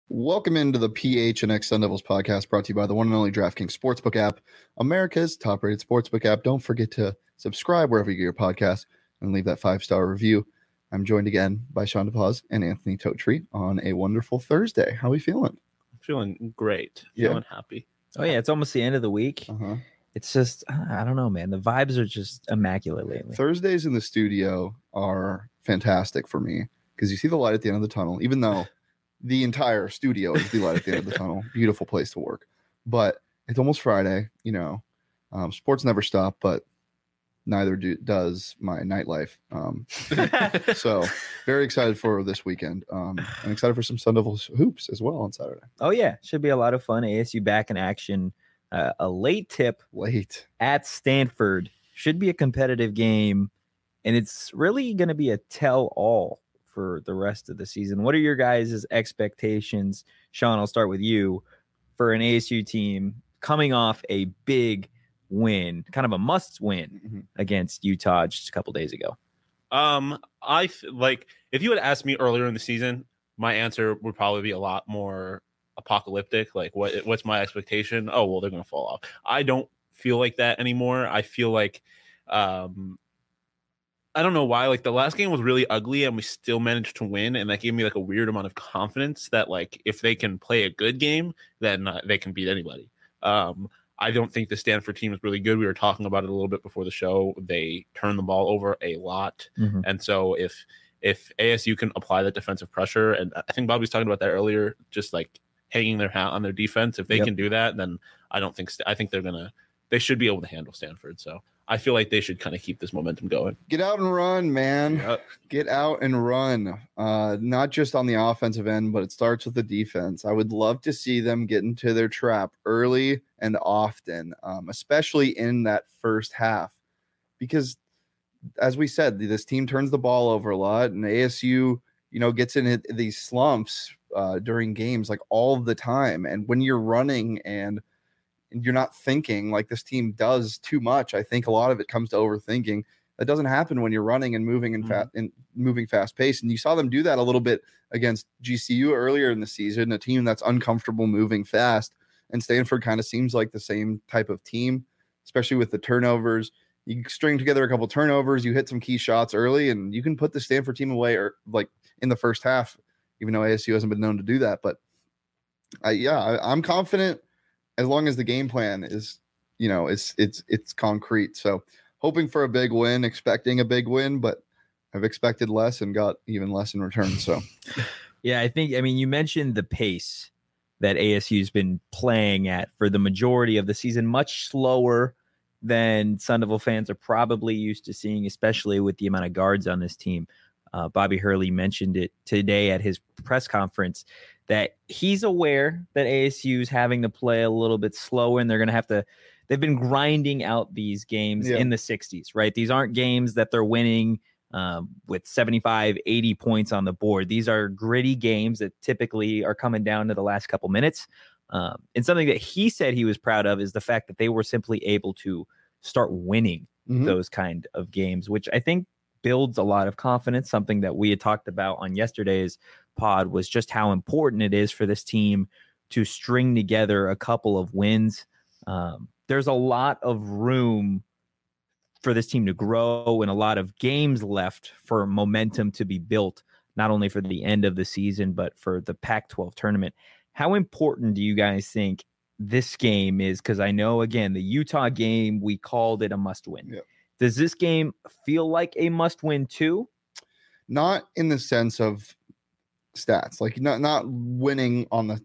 Welcome into the PHNX Sun Devils podcast, brought to you by the one and only DraftKings Sportsbook app, America's top-rated sportsbook app. Don't forget to subscribe wherever you get your podcast and leave that 5-star review. I'm joined again by Sean DePaz and Anthony Totri on a wonderful Thursday. How are we feeling? Feeling great. Feeling happy. Oh, yeah. It's almost the end of the week. It's just, I don't know, man. The vibes are just immaculate lately. Thursdays in the studio are fantastic for me because you see the light at the end of the tunnel, even though the entire studio is the light at the end of the tunnel. Beautiful place to work. But it's almost Friday, sports never stop, but neither does my nightlife. So very excited for this weekend. And excited for some Sun Devils hoops as well on Saturday. Oh, yeah. Should be a lot of fun. ASU back in action. A late tip at Stanford. Should be a competitive game. And it's really going to be a tell-all for the rest of the season. What are your guys' expectations? Sean, I'll start with you. For an ASU team coming off a big win, kind of a must-win against Utah just a couple days ago. If you had asked me earlier in the season, my answer would probably be a lot more apocalyptic. Like, what's my expectation? Oh, well, they're going to fall off. I don't feel like that anymore. I feel like I don't know why. Like, the last game was really ugly and we still managed to win, and that gave me like a weird amount of confidence that like if they can play a good game, then they can beat anybody. I don't think the Stanford team is really good. We were talking about it a little bit before the show. They turn the ball over a lot. And so if ASU can apply that defensive pressure, and I think Bobby was talking about that earlier, just like hanging their hat on their defense, if they can do that, then I think they should be able to handle Stanford. So I feel like they should kind of keep this momentum going. Get out and run, man. Yep. Get out and run. Not just on the offensive end, but it starts with the defense. I would love to see them get into their trap early and often, especially in that first half. Because, as we said, this team turns the ball over a lot, and ASU, gets in these slumps during games like all the time. And when you're running and you're not thinking like this team does too much, I think a lot of it comes to overthinking. That doesn't happen when you're running and moving and moving fast pace. And you saw them do that a little bit against GCU earlier in the season, a team that's uncomfortable moving fast. And Stanford kind of seems like the same type of team, especially with the turnovers. You string together a couple turnovers, you hit some key shots early, and you can put the Stanford team away, or like in the first half, even though ASU hasn't been known to do that. But I'm confident as long as the game plan is, it's concrete. So hoping for a big win, expecting a big win, but I've expected less and got even less in return. So, yeah, you mentioned the pace that ASU's been playing at for the majority of the season, much slower than Sun Devil fans are probably used to seeing, especially with the amount of guards on this team. Bobby Hurley mentioned it today at his press conference that he's aware that ASU is having to play a little bit slower, and they're going to they've been grinding out these games in the 60s, right? These aren't games that they're winning with 75, 80 points on the board. These are gritty games that typically are coming down to the last couple minutes. And something that he said he was proud of is the fact that they were simply able to start winning those kind of games, which I think builds a lot of confidence. Something that we had talked about on yesterday's pod was just how important it is for this team to string together a couple of wins. There's a lot of room for this team to grow and a lot of games left for momentum to be built, not only for the end of the season, but for the Pac-12 tournament. How important do you guys think this game is? Because I know, again, the Utah game, we called it a must-win. Yep. Does this game feel like a must-win too? Not in the sense of stats, like not winning on the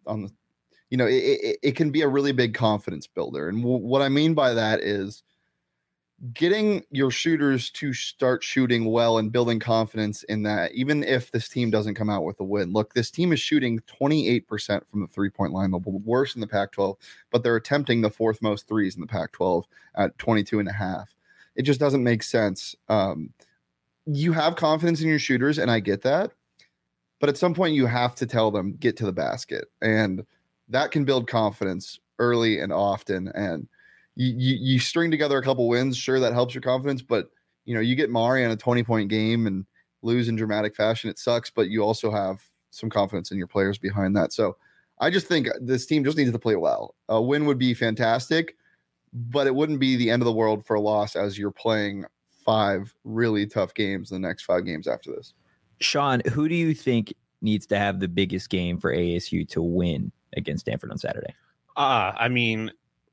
it can be a really big confidence builder. And what I mean by that is getting your shooters to start shooting well and building confidence in that, even if this team doesn't come out with a win. Look, this team is shooting 28% from the three-point line, the worst in the Pac-12, but they're attempting the fourth most threes in the Pac-12 at 22.5. It just doesn't make sense. You have confidence in your shooters, and I get that. But at some point, you have to tell them, get to the basket. And that can build confidence early and often. And you string together a couple wins. Sure, that helps your confidence. But, you get Mari on a 20-point game and lose in dramatic fashion. It sucks, but you also have some confidence in your players behind that. So I just think this team just needs to play well. A win would be fantastic, but it wouldn't be the end of the world for a loss as you're playing 5 really tough games the next 5 games after this. Sean, who do you think needs to have the biggest game for ASU to win against Stanford on Saturday? I mean,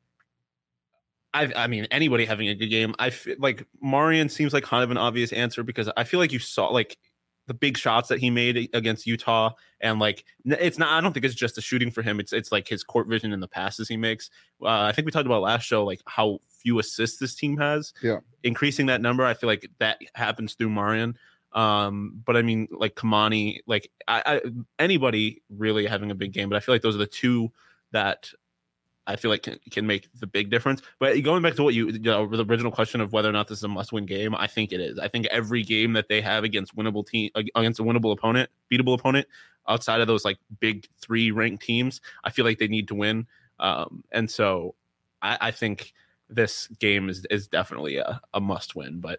anybody having a good game. I feel like Marian seems like kind of an obvious answer because I feel like you saw like the big shots that he made against Utah, and like it's not. I don't think it's just the shooting for him. It's like his court vision and the passes he makes. I think we talked about last show like how few assists this team has. Yeah, increasing that number, I feel like that happens through Marian. But I mean, like Kamani, like anybody really having a big game. But I feel like those are the two that I feel like can make the big difference. But going back to what the original question of whether or not this is a must-win game, I think it is. I think every game that they have against winnable team, against a winnable opponent, beatable opponent, outside of those like big 3 ranked teams, I feel like they need to win. And so I think this game is definitely a must-win. But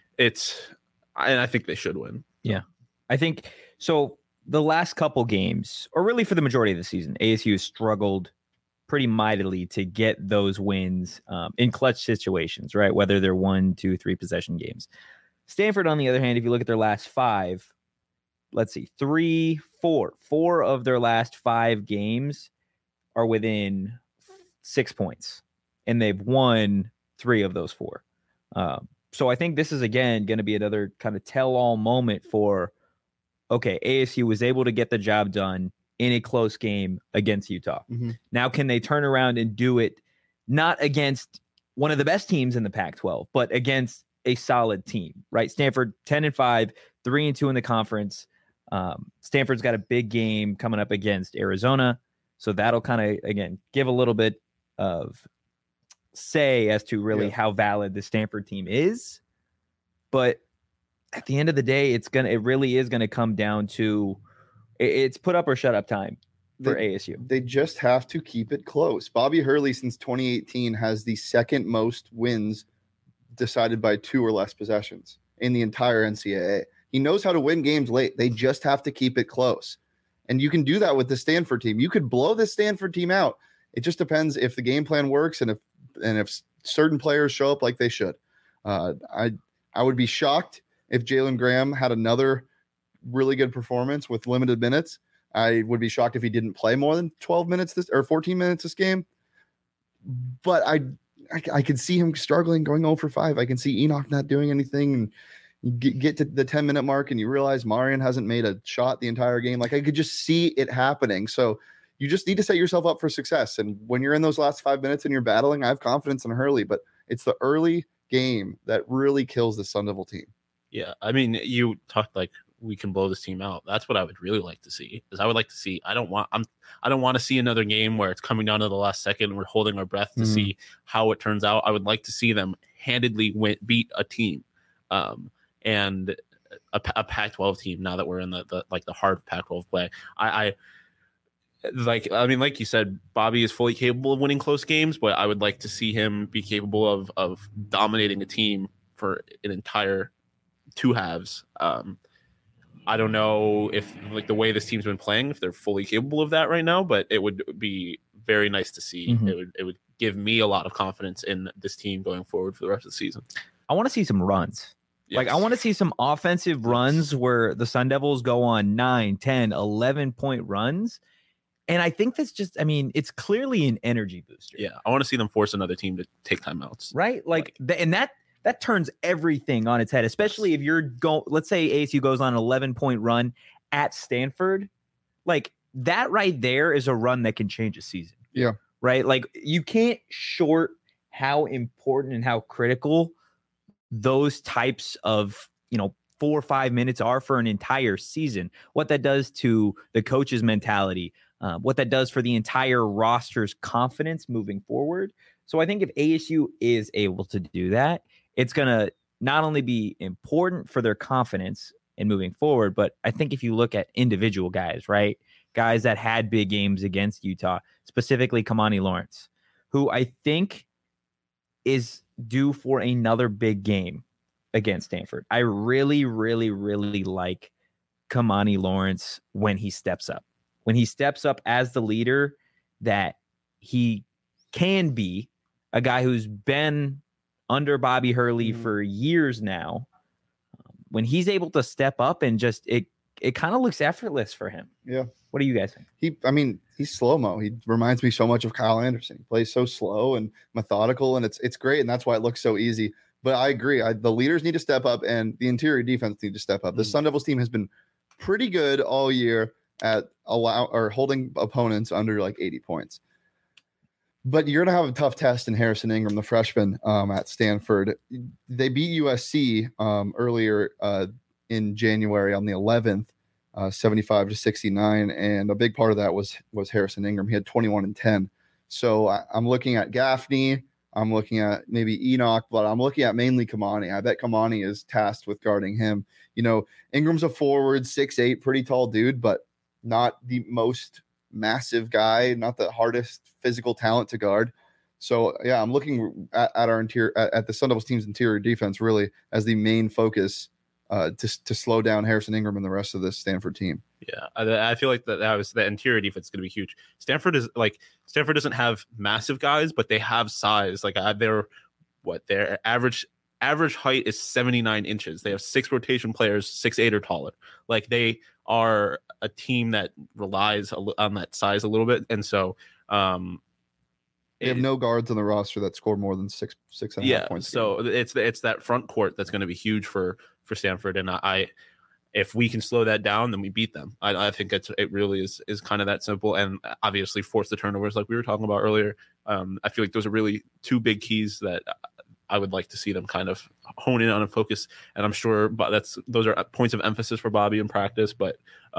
I think they should win. Yeah, I think so. The last couple games, or really for the majority of the season, ASU has struggled pretty mightily to get those wins in clutch situations, right? Whether they're 1, 2, 3 possession games. Stanford, on the other hand, if you look at their last 5, let's see, 3, 4 of their last 5 games are within 6 points, and they've won 3 of those 4. So I think this is, again, going to be another kind of tell-all moment for, okay, ASU was able to get the job done in a close game against Utah. Mm-hmm. Now, can they turn around and do it not against one of the best teams in the Pac-12, but against a solid team, right? Stanford 10-5, 3-2 in the conference. Stanford's got a big game coming up against Arizona. So that'll kind of, again, give a little bit of say as to really how valid the Stanford team is. But at the end of the day, it really is going to come down to it's put up or shut up time for ASU. They just have to keep it close. Bobby Hurley, since 2018, has the second most wins decided by 2 or less possessions in the entire NCAA. He knows how to win games late. They just have to keep it close. And you can do that with the Stanford team. You could blow the Stanford team out. It just depends if the game plan works and if certain players show up like they should. I would be shocked if Jalen Graham had another really good performance with limited minutes. I would be shocked if he didn't play more than 12 minutes or 14 minutes this game. But I could see him struggling, going 0 for 5. I can see Enoch not doing anything, and you get to the 10-minute mark and you realize Marian hasn't made a shot the entire game. Like, I could just see it happening. So you just need to set yourself up for success. And when you're in those last 5 minutes and you're battling, I have confidence in Hurley, but it's the early game that really kills the Sun Devil team. Yeah, I mean, you talked like we can blow this team out. That's what I would really like to see. Is I would like to see. I don't want to see another game where it's coming down to the last second and we're holding our breath to see how it turns out. I would like to see them handedly beat a team, and a Pac-12 team. Now that we're in the heart of Pac-12 play, I mean, like you said, Bobby is fully capable of winning close games, but I would like to see him be capable of dominating a team for an entire 2 halves. I don't know if like the way this team's been playing, if they're fully capable of that right now, but it would be very nice to see. Mm-hmm. It would give me a lot of confidence in this team going forward for the rest of the season. I want to see some runs. Yes. Like, I want to see some offensive runs where the Sun Devils go on 9, 10, 11-point runs. And I think that's just, I mean, it's clearly an energy booster. Yeah. I want to see them force another team to take timeouts. Right? And that turns everything on its head, especially if you're let's say ASU goes on an 11-point run at Stanford. Like, that right there is a run that can change a season. Yeah. Right? Like, you can't short how important and how critical those types of, 4 or 5 minutes are for an entire season. What that does to the coach's mentality, what that does for the entire roster's confidence moving forward. So I think if ASU is able to do that, it's going to not only be important for their confidence in moving forward, but I think if you look at individual guys, right? Guys that had big games against Utah, specifically Kamani Lawrence, who I think is due for another big game against Stanford. I really, really, really like Kamani Lawrence when he steps up. when he steps up as the leader, that he can be a guy who's been under Bobby Hurley for years now. When he's able to step up and just it kind of looks effortless for him. Yeah. What do you guys think? He's slow-mo. He reminds me so much of Kyle Anderson. He plays so slow and methodical, and it's great, and that's why it looks so easy. But I agree. The leaders need to step up, and the interior defense need to step up. The Sun Devils team has been pretty good all year at holding opponents under like 80 points. But you're going to have a tough test in Harrison Ingram, the freshman at Stanford. They beat USC earlier in January on the 11th, 75-69, and a big part of that was Harrison Ingram. He had 21 and 10. So I'm looking at Gaffney. I'm looking at maybe Enoch, but I'm looking at mainly Kamani. I bet Kamani is tasked with guarding him. You know, Ingram's a forward, 6'8", pretty tall dude, but not the most massive guy, not the hardest physical talent to guard. So yeah, I'm looking at our at the Sun Devils team's interior defense really as the main focus to slow down Harrison Ingram and the rest of this Stanford team. Yeah, I feel like that interior defense is going to be huge. Stanford doesn't have massive guys, but they have size. Like their average height is 79 inches. They have 6 rotation players, 6'8" or taller. Like they are a team that relies on that size a little bit, and so they have no guards on the roster that score more than six and a half points. So it's that front court that's going to be huge for Stanford, and if we can slow that down, then we beat them. I think it really is kind of that simple, and obviously force the turnovers like we were talking about earlier. I feel like those are really 2 big keys that I would like to see them kind of hone in on and focus. And I'm sure, but those are points of emphasis for Bobby in practice. But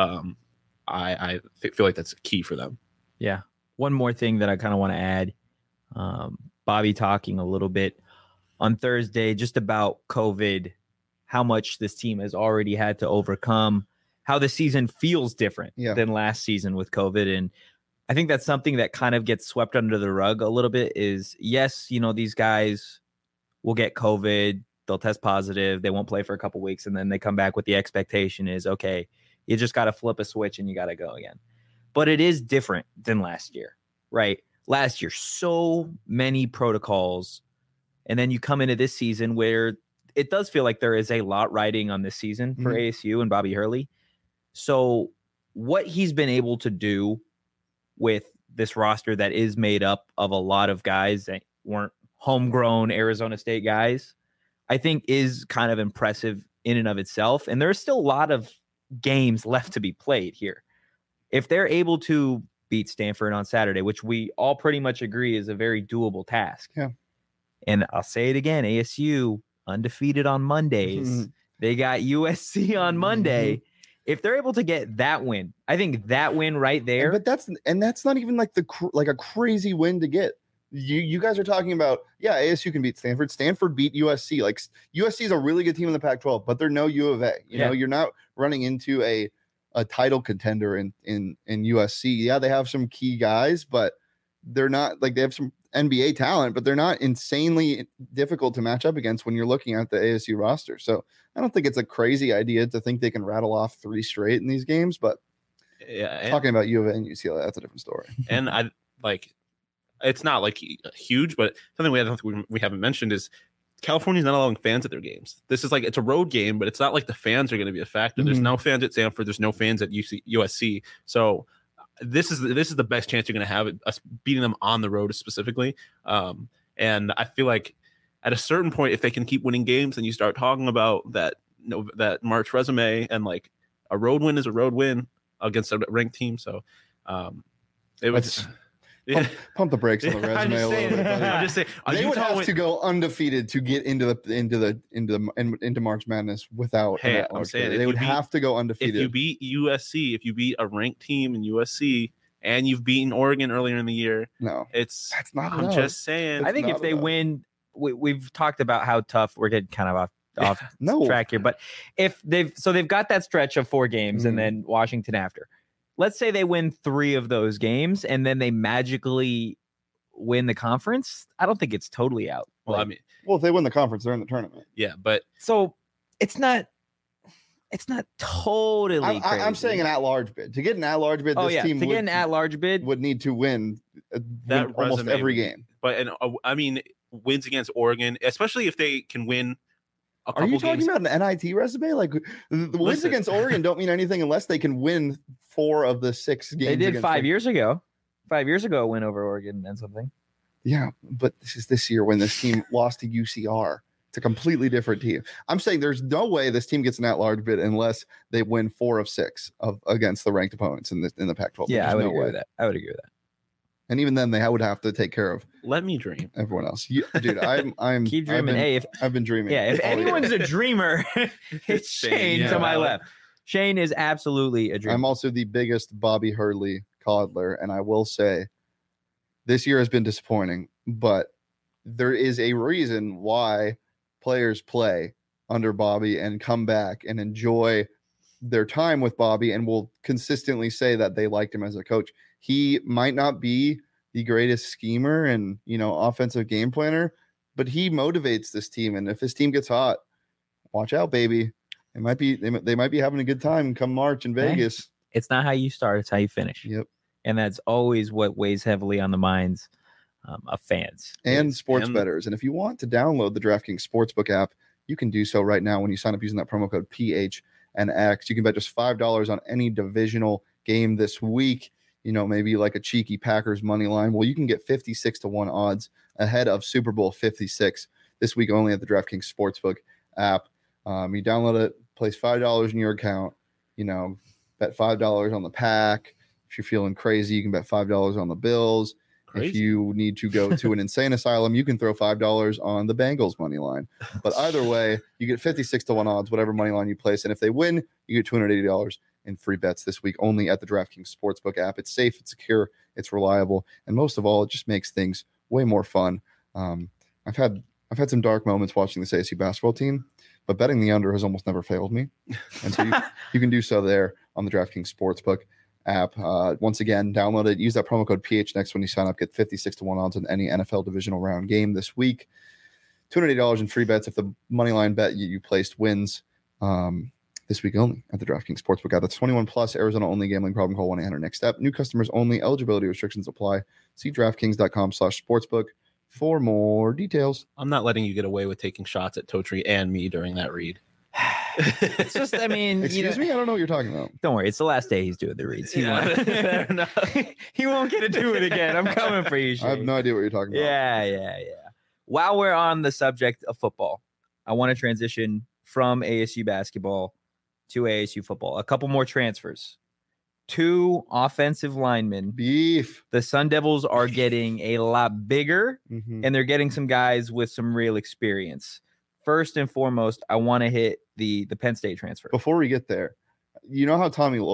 I feel like that's key for them. Yeah. One more thing that I kind of want to add. Bobby talking a little bit on Thursday just about COVID, how much this team has already had to overcome, how the season feels different than last season with COVID. And I think that's something that kind of gets swept under the rug a little bit is, yes, these guys will get COVID, they'll test positive, they won't play for a couple weeks, and then they come back with the expectation is, okay, you just got to flip a switch and you got to go again. But it is different than last year, right? Last year, so many protocols, and then you come into this season where it does feel like there is a lot riding on this season for ASU and Bobby Hurley. So what he's been able to do with this roster that is made up of a lot of guys that weren't homegrown Arizona State guys, I think is kind of impressive in and of itself. And there's still a lot of games left to be played here. If they're able to beat Stanford on Saturday, which we all pretty much agree is a very doable task. Yeah. And I'll say it again, ASU undefeated on Mondays. They got USC on Monday. If they're able to get that win, I think that win right there. But that's not even like a crazy win to get. You guys are talking about, ASU can beat Stanford. Stanford beat USC. Like USC is a really good team in the Pac-12, but they're no U of A. You know, you're not running into a title contender in USC. Yeah, they have some key guys, but they're not like they have some NBA talent, but they're not insanely difficult to match up against when you're looking at the ASU roster. So I don't think it's a crazy idea to think they can rattle off 3 straight in these games, but talking about U of A and UCLA, that's a different story. And it's not like huge, but something we haven't mentioned is California's not allowing fans at their games. This is like, it's a road game, but it's not like the fans are going to be a factor. There's no fans at Stanford. There's no fans at USC. So this is the best chance you're going to have at us beating them on the road specifically. And I feel like at a certain point, if they can keep winning games, then you start talking about that March resume, and like a road win is a road win against a ranked team. So it was. Pump the brakes on the resume a little bit. I'm just saying they would have to go undefeated to get into March Madness without. Hey, I'm saying they would have to go undefeated. If you beat USC, if you beat a ranked team in USC, and you've beaten Oregon earlier in the year, that's not. I'm just saying. I think if they win, we've talked about how tough we're getting kind of off track here, but if they've got that stretch of 4 games and then Washington after. Let's say they win 3 of those games and then they magically win the conference. I don't think it's totally out. Well, if they win the conference, they're in the tournament. Yeah, but so it's not It's not totally I'm crazy. saying an at-large bid. To get an at-large bid, this team to get an at-large bid would need to win almost resume every would- game. But I mean, wins against Oregon, especially if they can win a Are couple you talking games. about an NIT resume? Like the wins Listen. against Oregon don't mean anything unless they can win 4 of the 6 games. they did against 5 them. years ago. 5 years ago, a win over Oregon and something. Yeah, but this is this year when this team lost to UCR. It's a completely different team. I'm saying there's no way this team gets an at-large bid unless they win 4 of 6 against the ranked opponents in the Pac-12. Yeah, There's I would no agree way. with that. I would agree with that. And even then, they would have to take care of Let me dream. everyone else. Dude, I'm Keep dreaming. I've been dreaming. If all year. anyone's a dreamer, it's Shane yeah. to my left. Shane is absolutely a dreamer. I'm also the biggest Bobby Hurley coddler, and I will say this year has been disappointing, but there is a reason why players play under Bobby and come back and enjoy their time with Bobby and will consistently say that they liked him as a coach. He might not be the greatest schemer and, offensive game planner, but he motivates this team. And if this team gets hot, watch out, baby. They might be having a good time come March in Vegas. It's not how you start, it's how you finish. Yep. And that's always what weighs heavily on the minds of fans. And sports And- bettors. And if you want to download the DraftKings Sportsbook app, you can do so right now when you sign up using that promo code PHNX. You can bet just $5 on any divisional game this week. Maybe like a cheeky Packers money line. Well, you can get 56-1 odds ahead of Super Bowl 56 this week only at the DraftKings Sportsbook app. You download it, place $5 in your account, bet $5 on the pack. If you're feeling crazy, you can bet $5 on the Bills. Crazy. If you need to go to an insane asylum, you can throw $5 on the Bengals money line. But either way, you get 56-1 odds, whatever money line you place. And if they win, you get $280 in free bets this week only at the DraftKings Sportsbook app. It's safe, it's secure, it's reliable, and most of all, it just makes things way more fun. I've had some dark moments watching this ASU basketball team, but betting the under has almost never failed me. And so you can do so there on the DraftKings Sportsbook app. Once again, download it. Use that promo code PHNX when you sign up. Get 56-1 odds on any NFL divisional round game this week. $280 in free bets if the money line bet you placed wins. This week only at the DraftKings Sportsbook app. That's 21 plus, Arizona only. Gambling problem, call 1-800-NEXT STEP. New customers only. Eligibility restrictions apply. See DraftKings.com/sportsbook for more details. I'm not letting you get away with taking shots at Totri and me during that read. It's just, I mean, Excuse me? I don't know what you're talking about. Don't worry. It's the last day he's doing the reads. Fair enough. He won't get to do it again. I'm coming for you, Shane. I have no idea what you're talking about. Yeah. While we're on the subject of football, I want to transition from ASU basketball to ASU football. A couple more transfers. 2 offensive linemen. Beef. The Sun Devils are getting a lot bigger, Mhm. and they're getting some guys with some real experience. First and foremost, I want to hit the Penn State transfer. Before we get there, you know how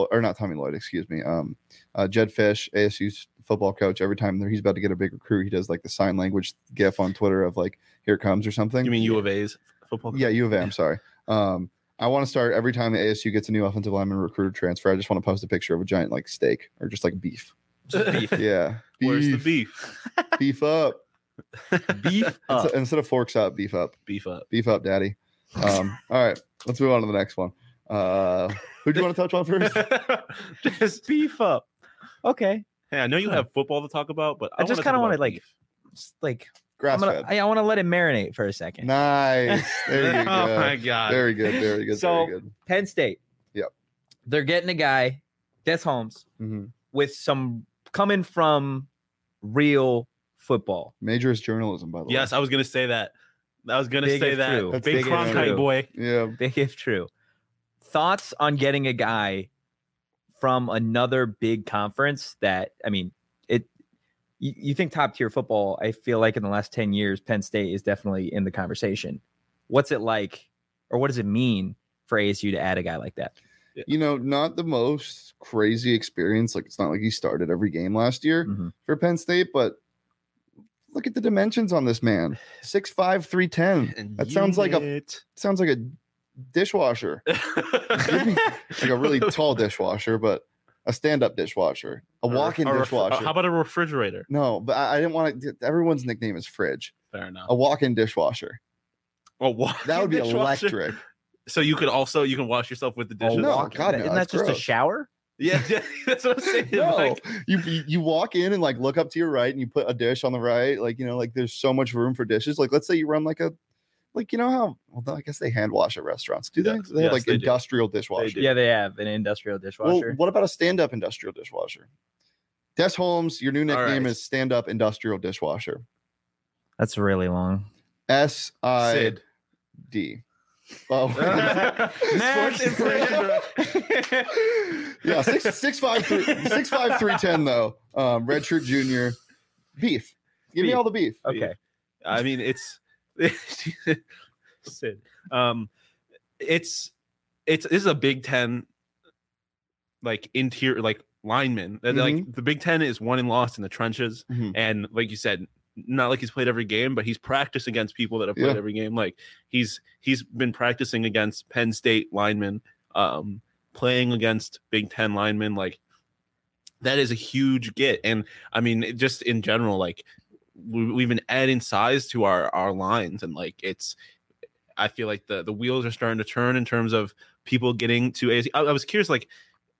Jed Fish, ASU's football coach, every time he's about to get a big recruit, he does like the sign language gif on Twitter of like, here it comes or something. You mean U of A's football? Yeah, U of A. I'm sorry. I want to start every time the ASU gets a new offensive lineman recruiter transfer. I just want to post a picture of a giant like steak or just like beef. Just beef. Yeah. Where's the beef? Beef up. Beef up. Instead of forks up, beef up. Beef up. Beef up, daddy. All right. Let's move on to the next one. Who do you want to touch on first? Just Beef up. Okay. Hey, I know you have football to talk about, but I just kind of want to like, Grass fed. I want to let it marinate for a second. Nice. There you go. Oh my god. Very good. Very good. So- very good. Penn State. Yep. They're getting a guy, Des Holmes, Mhm. with some coming from real football. Major is journalism, by the way. Yes, I was gonna say that. I was gonna Big say if that. true. That's Big big if Cronkite true. boy. Yeah. Big if true. Thoughts on getting a guy from another big conference that, I mean, you think top tier football, I feel like in the last 10 years, Penn State is definitely in the conversation. What's it like, or what does it mean for ASU to add a guy like that? Not the most crazy experience. Like, it's not like he started every game last year Mhm. for Penn State, but look at the dimensions on this man. 6'5", 310. That sounds like a dishwasher. Like a really tall dishwasher, but a stand-up dishwasher, a walk-in dishwasher. How about a refrigerator? No, but I didn't want to. Everyone's nickname is Fridge. Fair enough. A walk-in dishwasher. Oh, what? That would be electric. So you can wash yourself with the dishes. no, walk- God, no, isn't that that's just gross. a shower? Yeah, that's what I'm saying. No, Like, you walk in and like look up to your right and you put a dish on the right. Like, like there's so much room for dishes. Like, let's say you run like how, well, I guess they hand wash at restaurants. Do they? Yes, They have yes, like they do. industrial dishwasher. do. Yeah, they have an industrial dishwasher. Well, what about a stand-up industrial dishwasher? Des Holmes, your new nickname right. is stand-up industrial dishwasher. That's really long. SID. Sid. Oh, Next. yeah, 6'5", though. Redshirt junior. Beef. Give me Beef. all the beef. Okay. I mean, it's Sid. This is a Big Ten like interior like lineman. Like the Big Ten is won and lost in the trenches, Mhm. and like you said, not like he's played every game, but he's practiced against people that have played Yeah. every game. Like he's been practicing against Penn State linemen, playing against Big Ten linemen. Like that is a huge get, and I mean, just in general, like we've been adding size to our lines, and like I feel like the wheels are starting to turn in terms of people getting to ASU. I was curious, like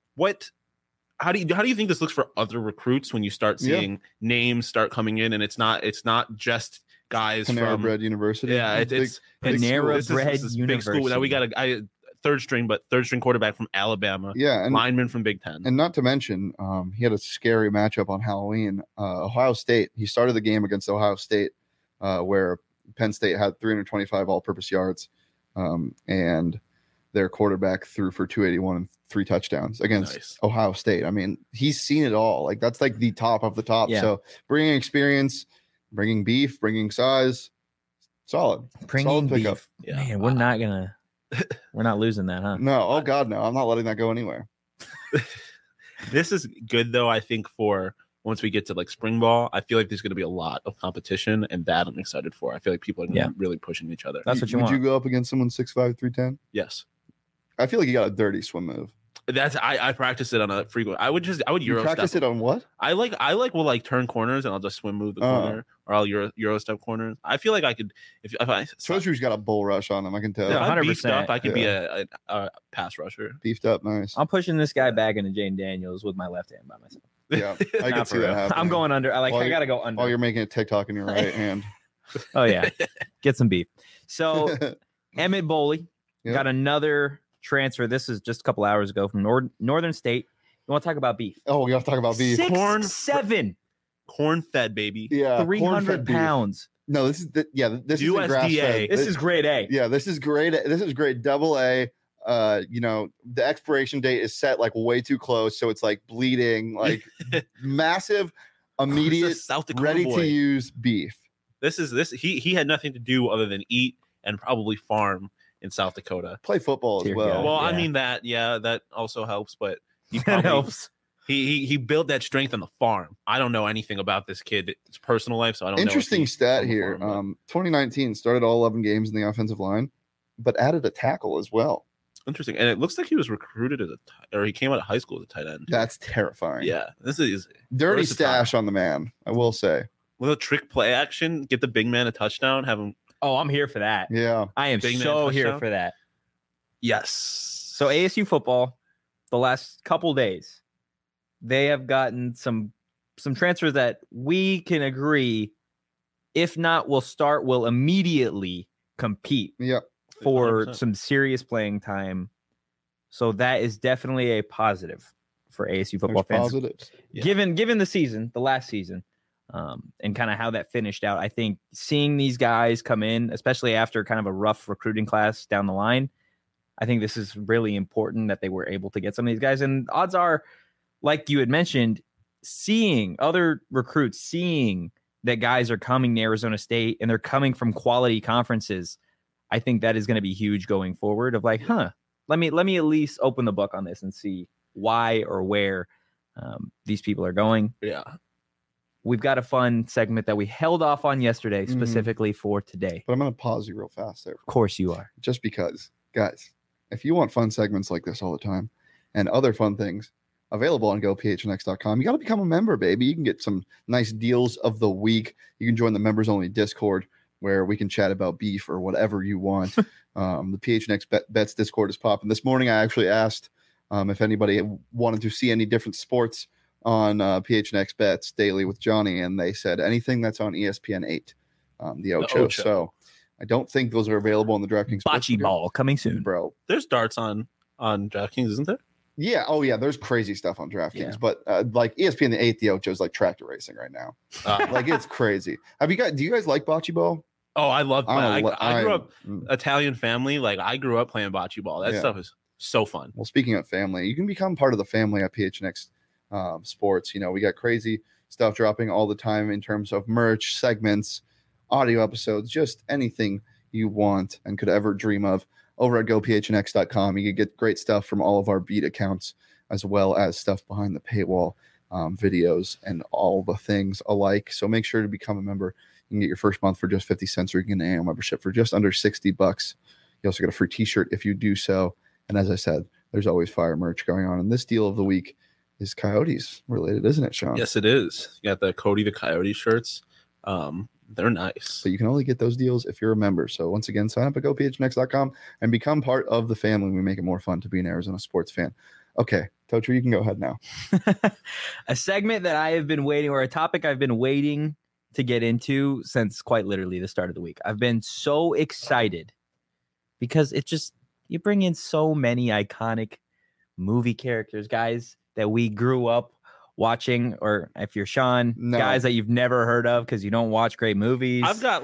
how do you think this looks for other recruits when you start seeing names start coming in, and it's not just guys Panera from Bread University. yeah, it's Panera this is Bread big school. Now we University. got a third string quarterback from Alabama, Yeah, and lineman from Big Ten. And not to mention, he had a scary matchup on Halloween. Ohio State. He started the game against Ohio State, where Penn State had 325 all-purpose yards, and their quarterback threw for 281 and 3 touchdowns against Nice. Ohio State. I mean, he's seen it all. Like that's like the top of the top. Yeah. So bringing experience, bringing beef, bringing size, solid. Bringing pickup. beef. Yeah. Man, we're not losing that, huh? No, oh God, no! I'm not letting that go anywhere. This is good though. I think for once we get to like spring ball, I feel like there's going to be a lot of competition, and that I'm excited for. I feel like people are gonna be really pushing each other. That's what you Would want. you go up against someone 6'5", 310? Yes, I feel like you got a dirty swim move. that's I practice it on a frequent. I would You Euro practice step. it on what? I will turn corners and I'll just swim move the Oh. corner, or I'll Euro step corners. I feel like I could if I Treasury's got a bull rush on him. I can tell. if Yeah, I beefed 100%. up, I could be a pass rusher. Beefed up, nice. I'm pushing this guy back into Jane Daniels with my left hand by myself. Yeah, I Not can for see that real. happening. I'm going under. I While gotta go under. while you're making a TikTok in your right hand. Oh yeah, get some beef. So Emmett Boley Yep. got another transfer. This is just a couple hours ago from Northern State. You want to talk about beef? Oh, we have to talk about beef. 6'7", Corn fed baby. Yeah, 300 corn-fed beef. pounds. No, this is this is USDA. grass-fed. This is grade A. Yeah, this is grade. This is grade double A. The expiration date is set like way too close, so it's like bleeding, like massive, immediate, South Dakota ready boy. to use beef. This he had nothing to do other than eat and probably farm in South Dakota. Play football as Dear well. God. Well, I yeah. mean that also helps, but he That probably, helps. he built that strength on the farm. I don't know anything about this kid's personal life, so I don't Interesting know. stat here. 2019 started all 11 games in the offensive line, but added a tackle as well. Interesting, and it looks like he was recruited or he came out of high school as a tight end. That's terrifying. Yeah, this is Dirty versatile. stash on the man, I will say. little trick play action. Get the big man a touchdown. Have him. Oh, I'm here for that. Yeah. I am Big man so here touchdown? for that. Yes. So ASU football, the last couple days, they have gotten some transfers that we can agree, if not will immediately compete Yep. for 100%. some serious playing time. So that is definitely a positive for ASU football There's fans. positives. Yeah. Given the season, the last season, and kind of how that finished out, I think seeing these guys come in, especially after kind of a rough recruiting class down the line, I think this is really important that they were able to get some of these guys. And odds are, like you had mentioned, seeing other recruits, seeing that guys are coming to Arizona State and they're coming from quality conferences, I think that is going to be huge going forward. Of like, let me at least open the book on this and see why or where these people are going. Yeah. We've got a fun segment that we held off on yesterday, Mhm. specifically for today. But I'm going to pause you real fast there, Of course you are. just because, guys, if you want fun segments like this all the time and other fun things available on gophnx.com, you got to become a member, baby. You can get some nice deals of the week. You can join the members only Discord, where we can chat about beef or whatever you want. The PHNX Bets Discord is popping. This morning, I actually asked if anybody wanted to see any different sports on PHNX Bets Daily with Johnny, and they said anything that's on ESPN 8, the Ocho. So I don't think those are available on the DraftKings. Bocce ball coming soon, bro. There's darts on DraftKings, isn't there? Yeah. Oh, yeah. There's crazy stuff on DraftKings, Yeah. but like ESPN 8, the Ocho is like tractor racing right now. Like it's crazy. Do you guys like bocce ball? Oh, I love playing. I grew up Mm. Italian family. Like I grew up playing bocce ball. That stuff is so fun. Well, speaking of family, you can become part of the family at PHNX Sports. You know, we got crazy stuff dropping all the time in terms of merch, segments, audio episodes, just anything you want and could ever dream of. Over at gophnx.com, you can get great stuff from all of our beat accounts, as well as stuff behind the paywall, videos, and all the things alike. So make sure to become a member. You can get your first month for just 50 cents, or you can get an annual membership for just under $60. You also get a free t-shirt if you do so. And as I said, there's always fire merch going on. And this deal of the week is Coyotes related, isn't it, Sean? Yes, it is. You got the Cody the Coyote shirts. They're nice. But you can only get those deals if you're a member. So once again, sign up at gophnx.com and become part of the family. We make it more fun to be an Arizona sports fan. Okay, Tocher, you can go ahead now. A segment that I have been waiting, or a topic I've been waiting to get into since quite literally the start of the week. I've been so excited because you bring in so many iconic movie characters, guys, that we grew up watching, or if you're Sean, guys that you've never heard of because you don't watch great movies. I've got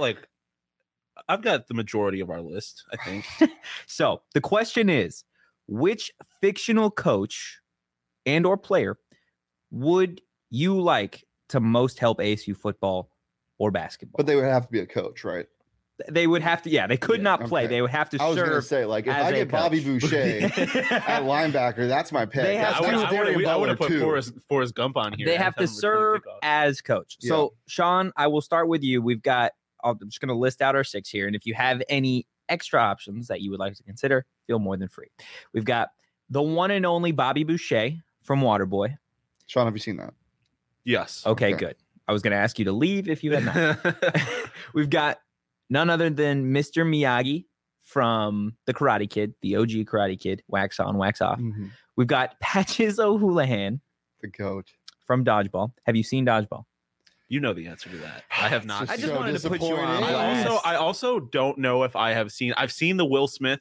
the majority of our list, I think. So the question is, which fictional coach and or player would you like to most help ASU football or basketball? But they would have to be a coach, right? They would have to, they could not play. Okay. They would have to I was going to serve. say, like, if as I a get Bobby coach. Boucher at linebacker, that's my pick. They have That's to- next Darian I would have Butler, put too. Forrest Gump on here. They have to Anytime we're returning serve kickoff. as coach. So, Sean, I will start with you. I'm just going to list out our 6 here. And if you have any extra options that you would like to consider, feel more than free. We've got the one and only Bobby Boucher from Waterboy. Sean, have you seen that? Yes. Okay, Okay. good. I was going to ask you to leave if you had not. We've got none other than Mr. Miyagi from the Karate Kid, the OG Karate Kid, wax on, wax off. Mhm. We've got Patches O'Houlihan The GOAT. from Dodgeball. Have you seen Dodgeball? You know the answer to that. I have not. I just So wanted to put you on disappointing. blast. I also don't know if I've seen the Will Smith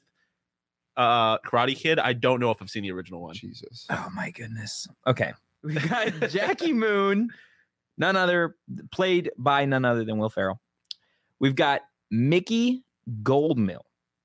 Karate Kid. I don't know if I've seen the original one. Jesus. Oh my goodness. Okay. We got Jackie Moon, played by none other than Will Ferrell. We've got Mickey Goldmill,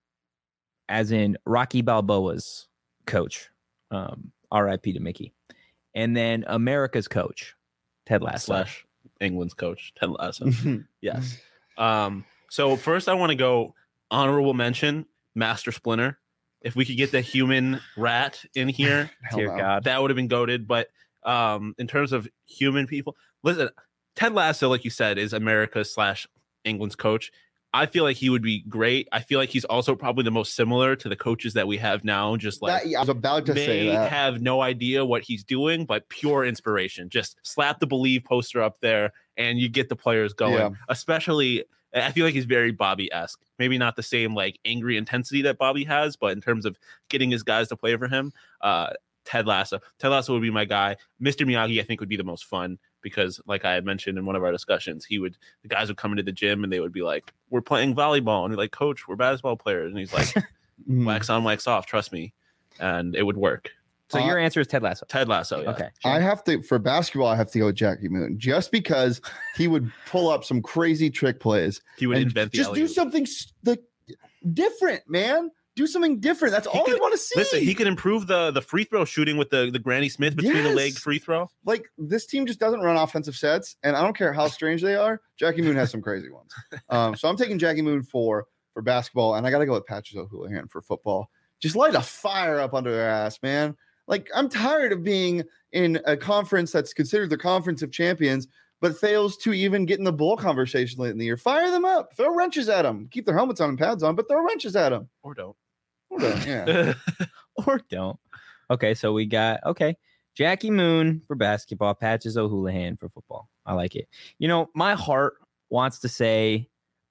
as in Rocky Balboa's coach. R.I.P. to Mickey. And then America's coach, Ted Lasso. / England's coach, Ted Lasso. Yes. So first I want to go honorable mention, Master Splinter. If we could get the human rat in here, Hell Dear no. God. that would have been goated. But in terms of human people, listen, Ted Lasso, like you said, is America's / England's coach. I feel like he would be great. I feel like he's also probably the most similar to the coaches that we have now. Just like I was about to say may that. have no idea what he's doing, but pure inspiration. Just slap the Believe poster up there and you get the players going. Yeah. Especially, I feel like he's very Bobby-esque. Maybe not the same like angry intensity that Bobby has, but in terms of getting his guys to play for him, Ted Lasso. Ted Lasso would be my guy. Mr. Miyagi, I think, would be the most fun because, like I had mentioned in one of our discussions, the guys would come into the gym and they would be like, "We're playing volleyball," and he's like, "Coach, we're basketball players," and he's like, Mhm. "Wax on, wax off, trust me," and it would work. So your answer is Ted Lasso. Ted Lasso, yeah. Okay. I have to, for basketball, I have to go with Jackie Moon just because he would pull up some crazy trick plays. He would and invent the just do alley-oop. something like different, man. Do something different. That's all I want to see. Listen, he could improve the free throw shooting with the Granny Smith between the leg Yes. free throw. Like this team just doesn't run offensive sets, and I don't care how strange they are. Jackie Moon has some crazy ones. So I'm taking Jackie Moon for basketball, and I got to go with Patches O'Houlihan for football. Just light a fire up under their ass, man. Like I'm tired of being in a conference that's considered the conference of champions, but fails to even get in the bowl conversation late in the year. Fire them up. Throw wrenches at them. Keep their helmets on and pads on, but throw wrenches at them. Or don't. Yeah. Or don't. Okay, so we got Jackie Moon for basketball, Patches O'Houlihan for football. I like it. You know, my heart wants to say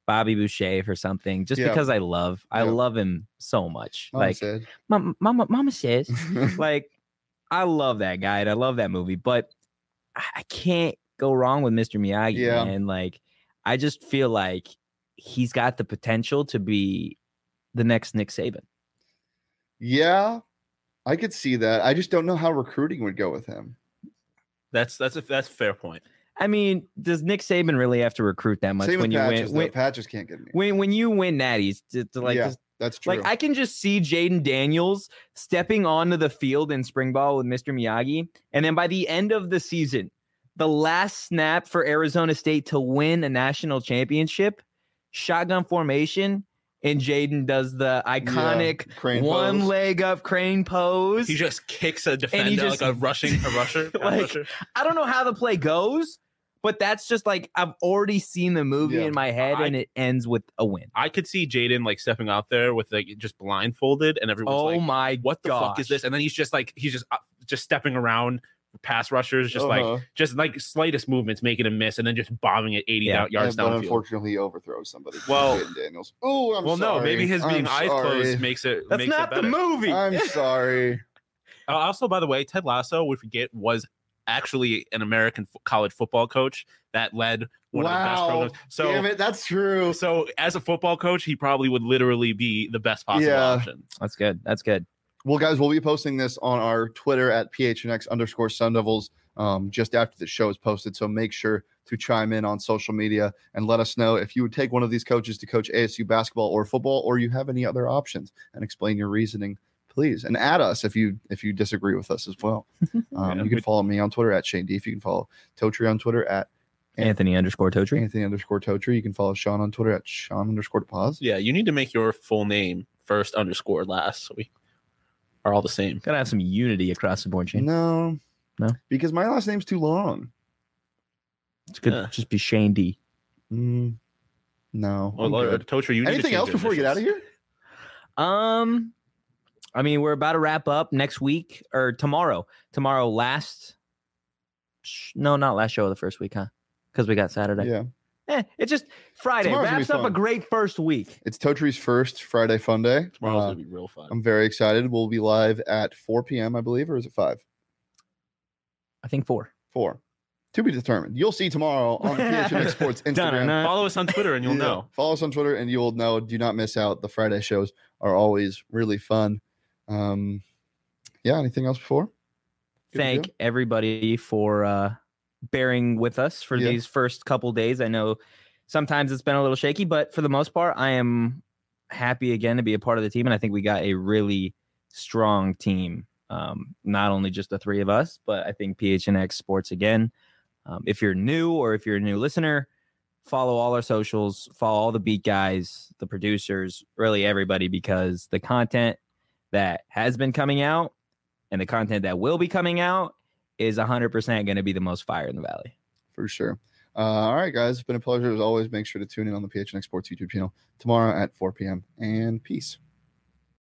Bobby Boucher for something, just Yeah. because I love him so much. Mama like said. Mama says, like I love that guy and I love that movie, but I can't go wrong with Mr. Miyagi, Yeah. man. Like I just feel like he's got the potential to be the next Nick Saban. Yeah, I could see that. I just don't know how recruiting would go with him. That's a fair point. I mean, does Nick Saban really have to recruit that much Same when with you Patches, win? though. Patches can't get any. When you win natties, Yeah, that's true. like I can just see Jaden Daniels stepping onto the field in spring ball with Mr. Miyagi, and then by the end of the season, the last snap for Arizona State to win a national championship, shotgun formation, and Jaden does the iconic crane one pose. leg up crane pose. He just kicks a defender just- like a rusher. Like, I don't know how the play goes, but that's just like I've already seen the movie Yeah. in my head, and it ends with a win. I could see Jaden like stepping out there with like just blindfolded, and everyone's Oh like, my "What the fuck is gosh. this?" And then he's just stepping around pass rushers, just Uh-huh. like slightest movements, making a miss, and then just bombing it 80 Yeah. yards But downfield. unfortunately, he overthrows somebody. Well- Jaden Daniels. Oh, I'm Well, sorry. no, maybe his being I'm eyes sorry. closed makes it. That's makes not it the better. movie. I'm sorry. Also, by the way, Ted Lasso, we forget, was actually an American college football coach that led one of the best Wow. programs. So, Damn it, that's true. so as a football coach, he probably would literally be the best possible Yeah. option. That's good. That's good. Well, guys, we'll be posting this on our Twitter at PHNX_Sun Devils just after the show is posted. So make sure to chime in on social media and let us know if you would take one of these coaches to coach ASU basketball or football, or you have any other options, and explain your reasoning, please. And add us if you disagree with us as well. Yeah, You can follow me on Twitter at Shane Deef. You can follow Totri on Twitter at Anthony_Totri. Anthony_Totri. You can follow Sean on Twitter at Sean_Pause. Yeah, you need to make your full name first underscore last, so we are all the same. Gotta have some unity across the board, Shane. No, No? because my last name's too long. It's good. Yeah. Just be Shane D. No. I'm Well, good. Totra, you need to Anything change else your before we get out of initials. here? I mean, we're about to wrap up next week or tomorrow. Tomorrow, not last show of the first week, huh? Because we got Saturday. Yeah. It's just Friday. Tomorrow's gonna Wraps be up a fun. great first week. It's Totri's first Friday Fun Day. Tomorrow's gonna be real fun. I'm very excited. We'll be live at 4 p.m., I believe, or is it 5? I think 4. 4. To be determined. You'll see tomorrow on the PHNX Sports Instagram. Dun-dun-dun. Follow us on Twitter and you'll Yeah. know. Follow us on Twitter and you'll know. Do not miss out. The Friday shows are always really fun. Anything else before? Good to Thank go? everybody for bearing with us for Yeah. these first couple days. I know sometimes it's been a little shaky, but for the most part, I am happy again to be a part of the team. And I think we got a really strong team. Not only just the three of us, but I think PHNX Sports again. If you're new or if you're a new listener, follow all our socials, follow all the beat guys, the producers, really everybody, because the content that has been coming out and the content that will be coming out is 100% going to be the most fire in the Valley. For sure. All right, guys. It's been a pleasure as always. Make sure to tune in on the PHNX Sports YouTube channel tomorrow at 4 p.m. And peace.